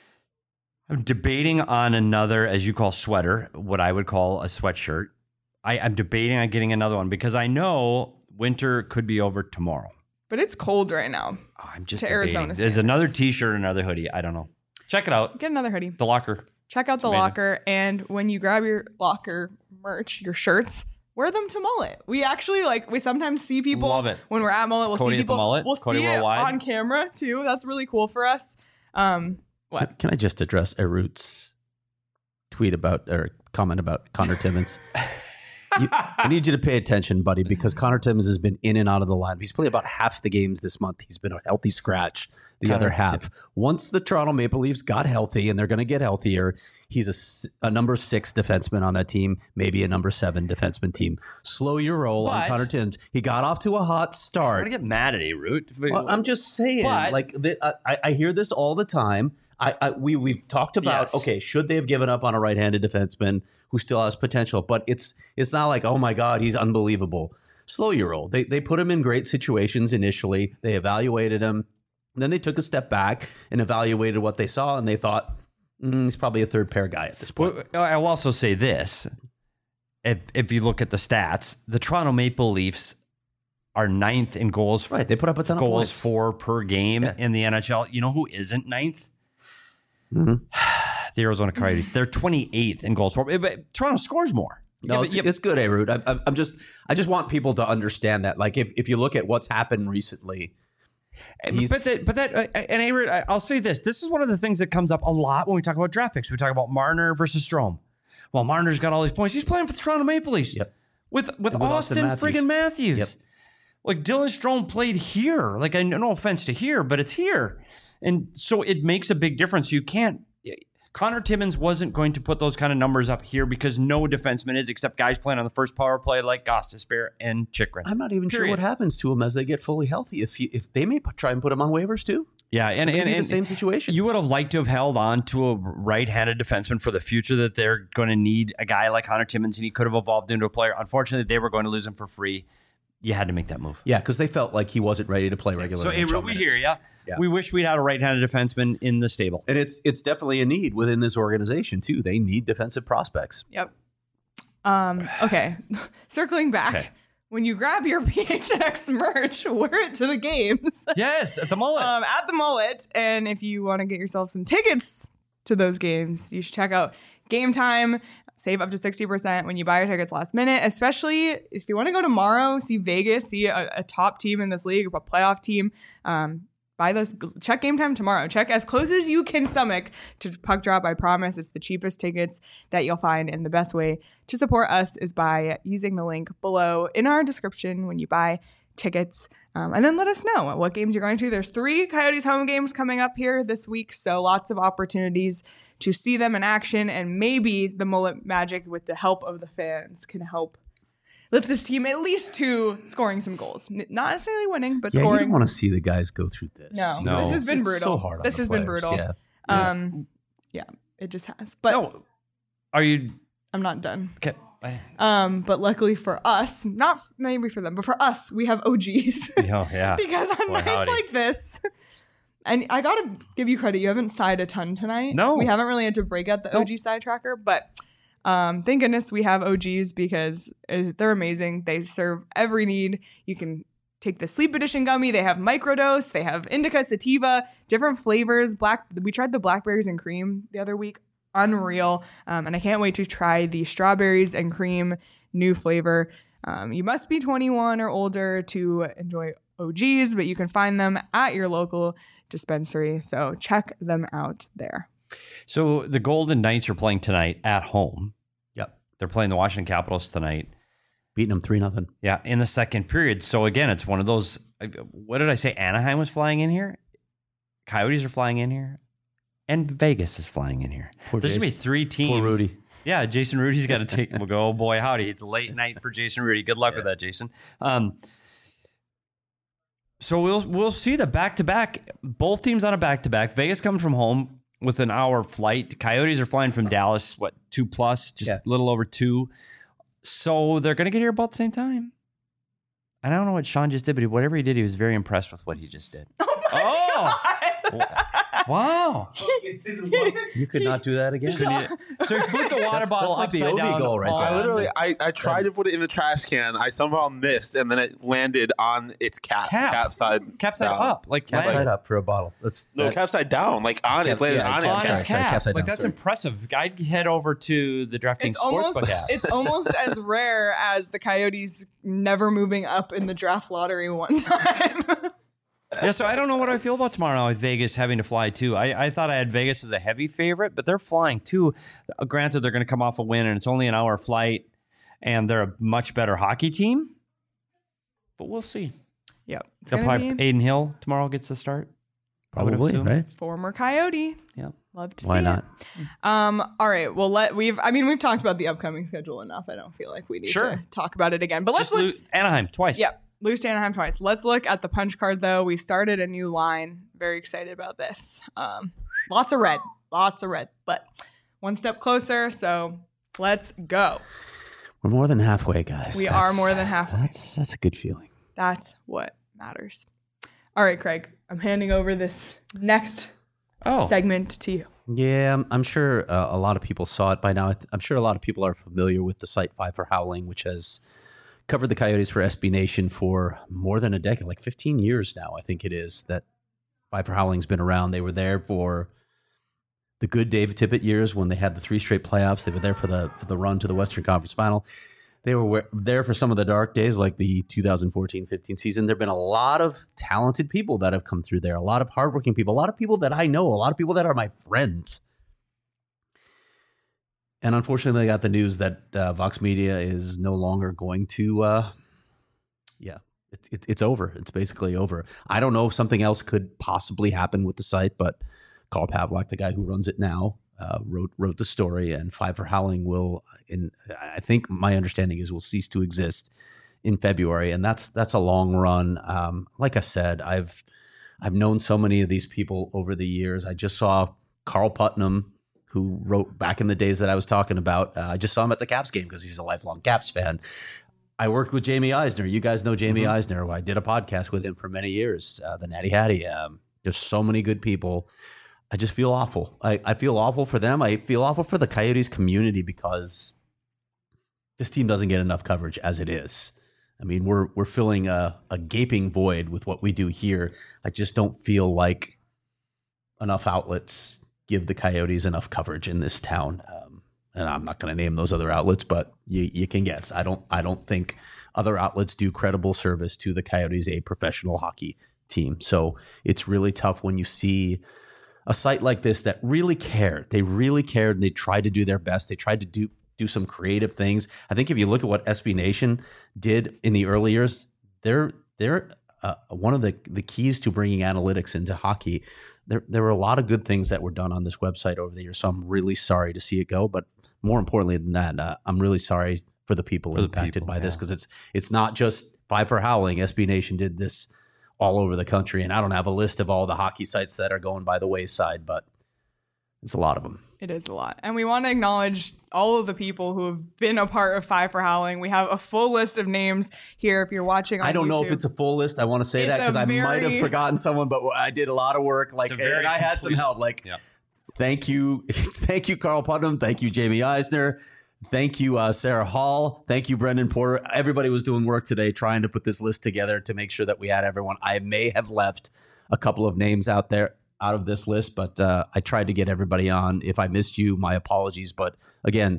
I'm debating on another, as you call sweater, what I would call a sweatshirt. I, I'm debating on getting another one because I know winter could be over tomorrow. But it's cold right now. Oh, I'm just To debating. Arizona There's standards. another T-shirt, another hoodie. I don't know. Check it out. Get another hoodie. The locker. Check out the amazing. locker, and when you grab your locker merch, your shirts, wear them to Mullet. We actually like we sometimes see people Love it. when we're at Mullet. We'll Cody see at the people. Mullet, We'll Cody see it Worldwide. on camera too. That's really cool for us. Um, what? Can I just address Erut's tweet about or comment about Connor Timmins? You, I need you to pay attention, buddy, because Connor Timmins has been in and out of the lineup. He's played about half the games this month. He's been a healthy scratch the Connor other half. Once the Toronto Maple Leafs got healthy, and they're going to get healthier, he's a, s- a number six defenseman on that team, maybe a number seven defenseman team. Slow your roll on But- Connor Timmins. He got off to a hot I'm start. gonna get mad at A-Root. Well, I'm just saying, But- like the, I, I hear this all the time. I, I we we've talked about Yes. okay, should they have given up on a right-handed defenseman who still has potential? But it's it's not like oh my god, he's unbelievable. Slow your roll. They they put him in great situations initially. They evaluated him, then they took a step back and evaluated what they saw, and they thought mm, he's probably a third pair guy at this point. Well, I'll also say this. If, if you look at the stats, the Toronto Maple Leafs are ninth in goals. Right, they put up a ton of goals points. for per game Yeah. in the N H L. You know who isn't ninth? Mhm. The Arizona Coyotes. They're twenty-eighth in goals for. But Toronto scores more. No, Yeah, it's, but- yeah, it's good, Arut. I, I- I'm just, I just want people to understand that. Like, if, if you look at what's happened recently, he's- but that, but that, uh, and A-Rod, I- I'll say this: this is one of the things that comes up a lot when we talk about draft picks. We talk about Marner versus Strome. Well, Marner's got all these points. He's playing for the Toronto Maple Leafs. Yep. With with, And with Austin, Austin Matthews. friggin' Matthews. Yep. Like Dylan Strome played here. Like I no offense to here, but it's here, and so it makes a big difference. You can't. Connor Timmins wasn't going to put those kind of numbers up here because no defenseman is, except guys playing on the first power play like Gostisbehere and Chikrin. I'm not even sure Period. what happens to him as they get fully healthy. If you, if they may p- try and put him on waivers too, Yeah, and, maybe and, and the same situation. You would have liked to have held on to a right-handed defenseman for the future that they're going to need a guy like Connor Timmins, and he could have evolved into a player. Unfortunately, they were going to lose him for free. You had to make that move. yeah, because they felt like he wasn't ready to play regular. So, N H L Avery, we minutes. hear ya. Yeah. We wish we'd had a right-handed defenseman in the stable. and it's it's definitely a need within this organization too. They need defensive prospects. Yep. Um, okay. Circling back. Okay. When you grab your P H N X merch, wear it to the games Yes, at the mullet. um, at the Mullet. And if you want to get yourself some tickets to those games, you should check out Game Time. Save up to sixty percent when you buy your tickets last minute, especially if you want to go tomorrow, see Vegas, see a, a top team in this league, a playoff team. Um, buy those, check Game Time tomorrow. Check as close as you can stomach to Puck Drop. I promise it's the cheapest tickets that you'll find. And the best way to support us is by using the link below in our description when you buy tickets. Um, and then let us know what games you're going to. There's three Coyotes home games coming up here this week. So lots of opportunities to see them in action. And maybe the Mullet Magic, with the help of the fans, can help lift this team at least to scoring some goals. N- Not necessarily winning, but Yeah, you scoring. don't want to see the guys go through this. No, you No. know? this has been It's brutal. So hard on this the has been players. brutal. Yeah. Yeah. Um, yeah, it just has. But no, are you I'm not done. okay? Um, but luckily for us, not maybe for them, but for us, we have O Gs. Oh, yeah. Because on Boy, nights howdy. like this, and I gotta give you credit, you haven't sighed a ton tonight. No. We haven't really had to break out the Nope. O G side tracker, but um, thank goodness we have O Gs because uh, they're amazing. They serve every need. You can take the Sleep Edition gummy. They have microdose. They have indica, sativa, different flavors. Black. We tried the blackberries and cream the other week. Unreal. Um, and I can't wait to try the strawberries and cream new flavor. Um, you must be twenty-one or older to enjoy O Gs, but you can find them at your local dispensary. So check them out there. So the Golden Knights are playing tonight at home. Yep. They're playing the Washington Capitals tonight. Beating them three nothing. Yeah, in the second period. So again, it's one of those, what did I say? Anaheim was flying in here. Coyotes are flying in here. And Vegas is flying in here. Poor There's going to be three teams. Poor Rudy. Yeah, Jason Rudy's got to take him. We'll go, oh boy, howdy. It's a late night for Jason Rudy. Good luck yeah. with that, Jason. Um, so we'll we'll see the back-to-back. Both teams on a back-to-back. Vegas coming from home with an hour flight. Coyotes are flying from Dallas, what, two plus? Just yeah. a little over two. So they're going to get here about the same time. I don't know what Sean just did, but whatever he did, he was very impressed with what he just did. Oh, my oh. God. Wow. You could not do that again. You, so you flipped the water bottle upside down. Goal right I literally, I, I tried to put it in the trash can. I somehow missed, and then it landed on its cap. Cap, cap side cap side down. up. Like cap like, side up for a bottle. That's No, that, cap side down. Like on cap, it. landed yeah, on, its on cap. its cap. Sorry, cap like down, that's sorry. impressive. I'd head over to the DraftKings Sportsbook app. It's almost as rare as the Coyotes never moving up in the draft lottery one time. Yeah, so I don't know what I feel about tomorrow with Vegas having to fly too. I, I thought I had Vegas as a heavy favorite, but they're flying too. Uh, granted, they're going to come off a win, and it's only an hour flight, and they're a much better hockey team. But we'll see. Yep. They'll probably be... Aiden Hill tomorrow gets the start. Probably, right? Former Coyote. Yeah. Love to Why see not? it. Um, all right. Well, let we've. I mean, we've talked about the upcoming schedule enough. I don't feel like we need sure. to talk about it again. But let's Just look. lo- Anaheim twice. Yep. Lose to Anaheim twice. Let's look at the punch card, though. We've started a new line. Very excited about this. Um, lots of red. Lots of red. But one step closer, so let's go. We're more than halfway, guys. We that's, are more than halfway. That's, that's a good feeling. That's what matters. All right, Craig. I'm handing over this next oh. segment to you. Yeah, I'm, I'm sure uh, a lot of people saw it by now. I'm sure a lot of people are familiar with the site Five for Howling, which has covered the Coyotes for S B Nation for more than a decade, like fifteen years now, I think it is, that Five for Howling's been around. They were there for the good Dave Tippett years when they had the three straight playoffs. They were there for the for the run to the Western Conference Final. They were there for some of the dark days, like the two thousand fourteen fifteen season. There have been a lot of talented people that have come through there, a lot of hardworking people, a lot of people that I know, a lot of people that are my friends. And unfortunately, I got the news that uh, Vox Media is no longer going to, uh, yeah, it, it, it's over. It's basically over. I don't know if something else could possibly happen with the site, but Carl Pavlak, the guy who runs it now, uh, wrote wrote the story, and Five for Howling will, in I think my understanding is, will cease to exist in February, and that's that's a long run. Um, like I said, I've I've known so many of these people over the years. I just saw Carl Putnam, who wrote back in the days that I was talking about. Uh, I just saw him at the Caps game because he's a lifelong Caps fan. I worked with Jamie Eisner. You guys know Jamie mm-hmm. Eisner. I did a podcast with him for many years, uh, the Natty Hattie. Um, there's so many good people. I just feel awful. I, I feel awful for them. I feel awful for the Coyotes community because this team doesn't get enough coverage as it is. I mean, we're we're filling a, a gaping void with what we do here. I just don't feel like enough outlets give the Coyotes enough coverage in this town. Um, and I'm not going to name those other outlets, but you, you can guess. I don't I don't think other outlets do credible service to the Coyotes, a professional hockey team. So it's really tough when you see a site like this that really cared. They really cared, and they tried to do their best. They tried to do do some creative things. I think if you look at what S B Nation did in the early years, they're they're uh, one of the, the keys to bringing analytics into hockey. There, there were a lot of good things that were done on this website over the years, so I'm really sorry to see it go. But more importantly than that, uh, I'm really sorry for the people for impacted the people, by yeah. this, because it's it's not just Five for Howling. S B Nation did this all over the country, and I don't have a list of all the hockey sites that are going by the wayside, but it's a lot of them. It is a lot. And we want to acknowledge all of the people who have been a part of Five for Howling. We have a full list of names here if you're watching on I don't YouTube. know if it's a full list. I want to say it's that because very... I might have forgotten someone, but I did a lot of work. Like, and I had some help. Like, yeah. thank you. Thank you, Carl Putnam. Thank you, Jamie Eisner. Thank you, uh, Sarah Hall. Thank you, Brendan Porter. Everybody was doing work today trying to put this list together to make sure that we had everyone. I may have left a couple of names out there out of this list, but uh, I tried to get everybody on. If I missed you, my apologies. But again,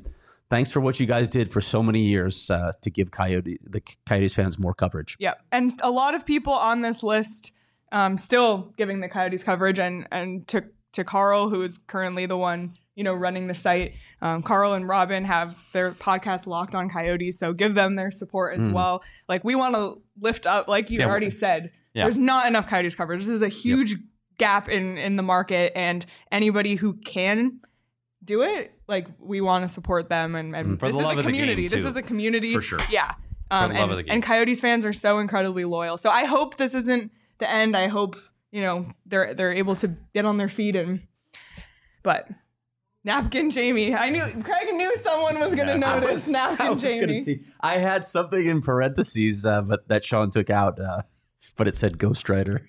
thanks for what you guys did for so many years uh, to give Coyote the Coyotes fans more coverage. Yep. And a lot of people on this list um, still giving the Coyotes coverage, and and to to Carl, who is currently the one, you know, running the site. Um, Carl and Robin have their podcast Locked on Coyotes, so give them their support as mm. well. Like, we want to lift up, like you yeah, already said, yeah. there's not enough Coyotes coverage. This is a huge yep. gap in, in the market, and anybody who can do it, like, we want to support them. And, and mm. For this the is love a community. Of the game, this too. is a community. For sure. Yeah. Um, For the love and, of the game. and Coyotes fans are so incredibly loyal. So I hope this isn't the end. I hope, you know, they're they're able to get on their feet and but Napkin Jamie. I knew Craig knew someone was gonna yeah, notice was, Napkin I was Jamie. See, I had something in parentheses, uh, but that Sean took out, uh, but it said Ghost Rider.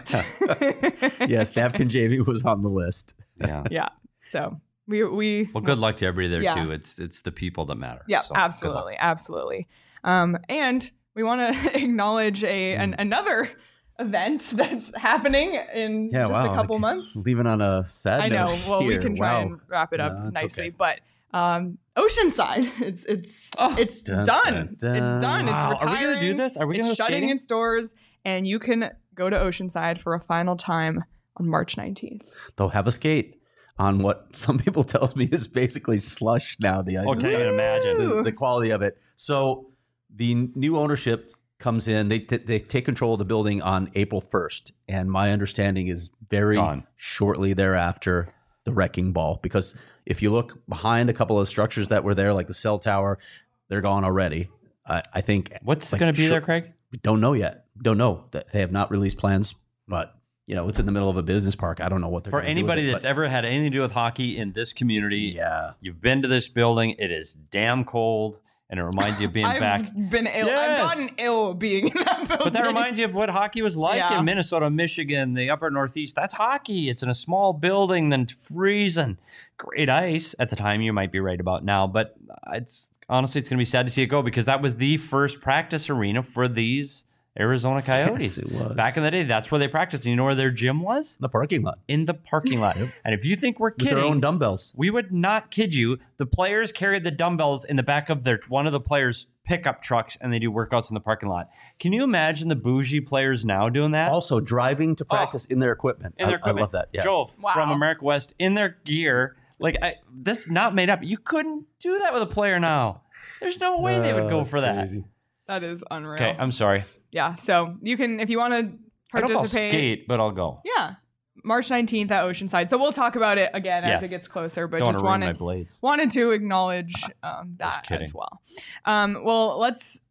Yes, Napkin Jamie was on the list. Yeah. Yeah. So we we well, good luck to everybody there yeah. too. It's it's the people that matter. Yeah, so, absolutely, absolutely. Um, and we want to acknowledge a an, another event that's happening in yeah, just wow, a couple like, months. Leaving on a sad I know. note Well, here. we can try wow. and wrap it up no, nicely, okay. but um, Oceanside, it's it's oh, it's dun, done. Dun, dun. It's done. Wow. It's Are we retiring. gonna do this? Are we it's gonna shutting skating? in stores, and you can go to Oceanside for a final time on March nineteenth. They'll have a skate on what some people tell me is basically slush now. The ice, oh, can't even imagine the, the quality of it. So the new ownership comes in. They t- they take control of the building on April first, and my understanding is very Gone. shortly thereafter the wrecking ball. Because if you look behind a couple of structures that were there, like the cell tower, they're gone already. I, I think what's like, going to be sure, there, Craig? We don't know yet. Don't know. They have not released plans, but you know, it's in the middle of a business park. I don't know what they're for gonna anybody do with it, that's ever had anything to do with hockey in this community. Yeah, you've been to this building. It is damn cold, and it reminds you of being I've back. been ill. Yes. I've gotten ill being in that building. But that reminds you of what hockey was like Yeah. in Minnesota, Michigan, the upper Northeast. That's hockey. It's in a small building, then freezing. Great ice at the time. You might be right about now, but it's honestly, it's going to be sad to see it go because that was the first practice arena for these Arizona Coyotes. Yes, it was. Back in the day, that's where they practiced. And you know where their gym was? the parking lot In the parking lot. And if you think we're with kidding, their own dumbbells. we would not kid you. The players carried the dumbbells in the back of their one of the players' pickup trucks, and they do workouts in the parking lot. Can you imagine the bougie players now doing that? Also driving to practice in their equipment. in their I, equipment. I love that. Yeah. Joe Wow. from America West in their gear. Like I, that's not made up. You couldn't do that with a player now. There's no way they would go Uh, for that. crazy. That is unreal. Okay, I'm sorry. Yeah, so you can, if you want to I don't know if I'll participate. skate, but I'll go. Yeah, March nineteenth at Oceanside. So we'll talk about it again Yes. as it gets closer, but Don't want just to ruin my wanted, blades. wanted to acknowledge um, that kidding. as well. Um, well, let's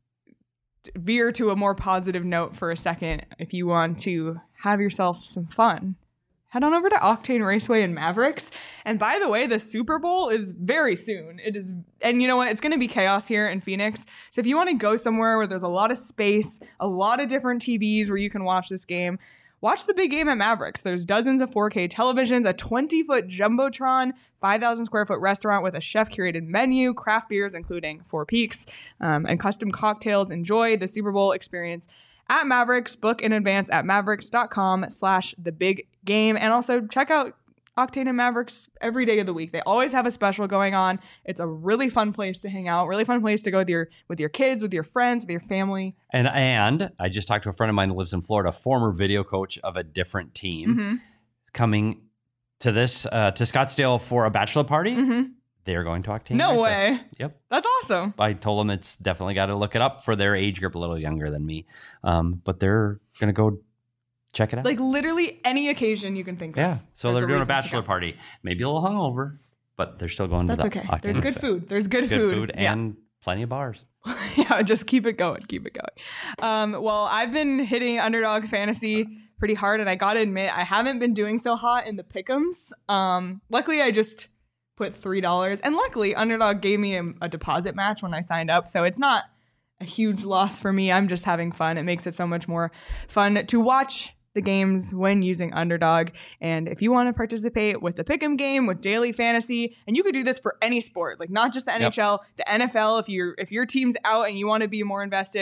veer to a more positive note for a second. If you want to have yourself some fun, head on over to Octane Raceway in Mavericks. And by the way, the Super Bowl is very soon. It is, and you know what? It's going to be chaos here in Phoenix. So if you want to go somewhere where there's a lot of space, a lot of different T Vs where you can watch this game, watch the big game at Mavericks. There's dozens of four K televisions, a twenty-foot Jumbotron, five thousand square foot restaurant with a chef-curated menu, craft beers, including Four Peaks, um, and custom cocktails. Enjoy the Super Bowl experience at Mavericks. Book in advance at mavericks.com slash the big game. And also check out Octane and Mavericks every day of the week. They always have a special going on. It's a really fun place to hang out, really fun place to go with your with your kids, with your friends, with your family. And and I just talked to a friend of mine that lives in Florida, former video coach of a different team, Mm-hmm. coming to this uh, to Scottsdale for a bachelor party. Mm-hmm. They're going to Octane. No Raceway. way. Yep. That's awesome. I told them it's definitely got to look it up for their age group, a little younger than me. Um, but they're going to go check it out. Like literally any occasion you can think of. yeah. So There's they're a doing a reason to bachelor go. party. Maybe a little hungover, but they're still going That's to the okay. Octane There's good Raceway. food. There's good, Good food. food Yeah. and plenty of bars. Yeah, just keep it going. Keep it going. Um, well, I've been hitting Underdog Fantasy pretty hard, and I got to admit, I haven't been doing so hot in the pick'ems. Um, luckily, I just put three dollars, and luckily, Underdog gave me a, a deposit match when I signed up, so it's not a huge loss for me. I'm just having fun. It makes it so much more fun to watch the games when using Underdog. And if you want to participate with the Pick'em game, with daily fantasy, and you could do this for any sport, like not just the N H L, the N F L. If you're if your team's out and you want to be more invested,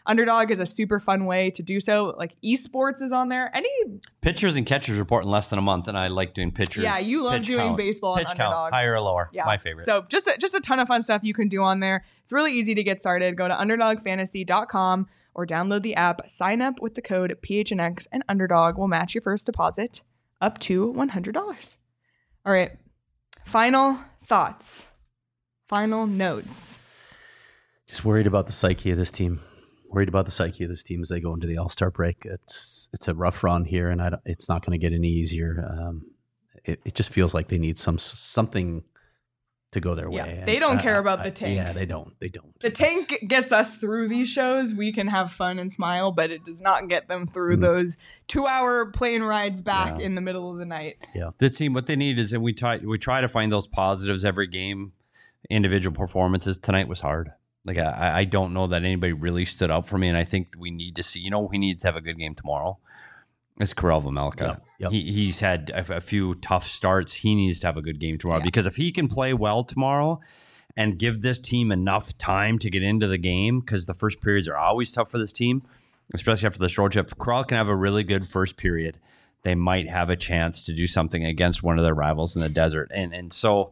Underdog is a super fun way to do so. Like esports is on there. Any pitchers and catchers report in less than a month, and I like doing pitchers. Yeah, you love pitch doing count. baseball pitch on count, Underdog. Higher or lower? Yeah. My favorite. So just a, just a ton of fun stuff you can do on there. It's really easy to get started. Go to underdog fantasy dot com or download the app. Sign up with the code P H N X, and Underdog will match your first deposit up to one hundred dollars. All right. Final thoughts. Final notes. Just worried about the psyche of this team. Worried about the psyche of this team as they go into the All-Star break. It's it's a rough run here, and I don't, it's not going to get any easier. Um, it, it just feels like they need some something to go their Yeah, way. they don't And, care uh, about I- the tank. Yeah, they don't. They don't. The That's- tank gets us through these shows. We can have fun and smile, but it does not get them through Mhm. those two-hour plane rides back Yeah. in the middle of the night. The team, what they need is, and we try we try to find those positives every game. Individual performances tonight was hard. Like I, I don't know that anybody really stood up for me, and I think we need to see. You know, he needs to have a good game tomorrow. It's Karel Vejmelka. Yep, yep. He he's had a, a few tough starts. He needs to have a good game tomorrow Yeah. because if he can play well tomorrow and give this team enough time to get into the game, because the first periods are always tough for this team, especially after the short trip. If Karel can have a really good first period, they might have a chance to do something against one of their rivals in the desert. And and so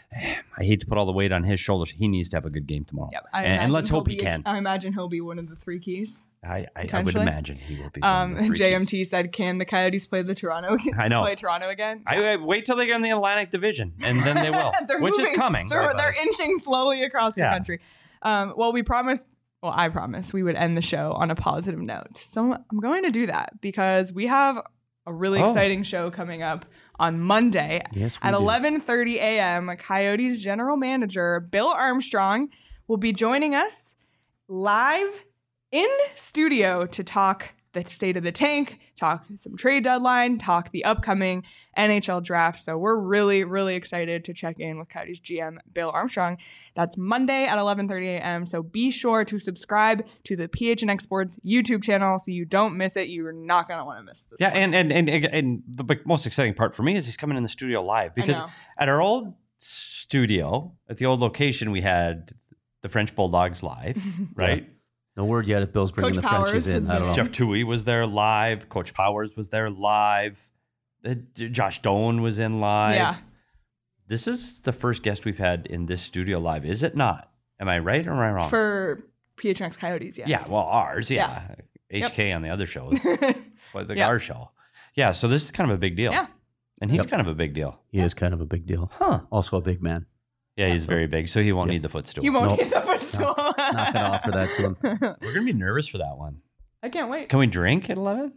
I hate to put all the weight on his shoulders. He needs to have a good game tomorrow. Yep, I and, and imagine let's he'll hope he be- can. I imagine he'll be one of the three keys. I, I, I would potentially. imagine he will be. one of Um, the three J M keys. T said, "Can the Coyotes play the Toronto? I know. play Toronto again." I, I wait till they get in the Atlantic Division, and then they will, They're which moving. is coming. So by the they're way. inching slowly across the Yeah. country. Um, well, we promised. Well, I promised we would end the show on a positive note. So I'm going to do that because we have a really Oh. exciting show coming up on Monday Yes, we at do. eleven thirty a.m. Coyotes general manager Bill Armstrong will be joining us live in studio to talk the state of the tank, talk some trade deadline, talk the upcoming N H L draft. So we're really, really excited to check in with Coyotes G M Bill Armstrong. That's Monday at eleven thirty a.m. So be sure to subscribe to the P H N X Sports YouTube channel so you don't miss it. You're not going to want to miss this. Yeah, one. and, and and and the big- most exciting part for me is he's coming in the studio live because know. at our old studio, at the old location, we had the French Bulldogs live, right? No word yet if Bill's bringing Coach the Powers Frenchies has in. I don't been know. in. Jeff Toohey was there live. Coach Powers was there live. Uh, Josh Doan was in live. Yeah. This is the first guest we've had in this studio live, is it not? Am I right or am I wrong? For P H N X Coyotes, yes. Yeah, well, ours, yeah. H K on the other shows, but the Yep. our show. Yeah, so this is kind of a big deal. Yeah. And he's Yep. kind of a big deal. He is kind of a big deal. Huh. Also a big man. Yeah, he's very big, so he won't Yep. need the footstool. You won't Nope. get the footstool. Not going to offer that to him. We're going to be nervous for that one. I can't wait. Can we drink at eleven?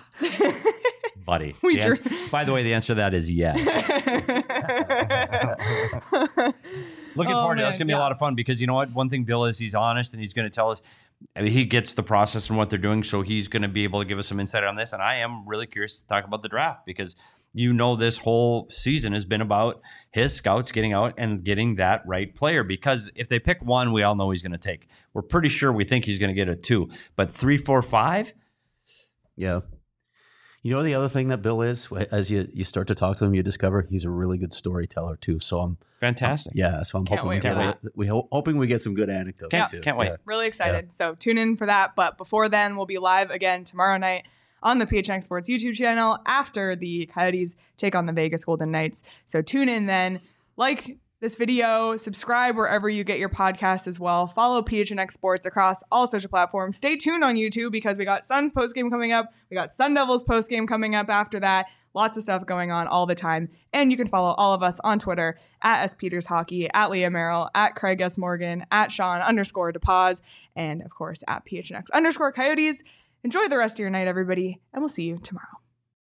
Buddy. We the ans- drink. By the way, the answer to that is yes. Looking Oh, forward to it. That's man, going to be yeah. a lot of fun because you know what? One thing Bill is he's honest and he's going to tell us. I mean, he gets the process and what they're doing, so he's going to be able to give us some insight on this. And I am really curious to talk about the draft because you know this whole season has been about his scouts getting out and getting that right player. Because if they pick one, we all know he's going to take. We're pretty sure we think he's going to get a two, but three, four, five. Yeah. You know the other thing that Bill is, as you, you start to talk to him, you discover he's a really good storyteller too. So I'm Fantastic. yeah. So I'm Can't hoping wait we for get that. we ho- hoping we get some good anecdotes Can't- too. can't wait. Yeah. Really excited. So tune in for that. But before then, we'll be live again tomorrow night on the P H N X Sports YouTube channel after the Coyotes take on the Vegas Golden Knights. So tune in then. Like this video, subscribe wherever you get your podcast as well. Follow P H N X Sports across all social platforms. Stay tuned on YouTube because we got Suns postgame coming up. We got Sun Devils postgame coming up after that. Lots of stuff going on all the time. And you can follow all of us on Twitter at S Peters Hockey, at Leah Merrill, at Craig S. Morgan, at Sean underscore DePaz, and of course at P H N X underscore Coyotes. Enjoy the rest of your night, everybody, and we'll see you tomorrow.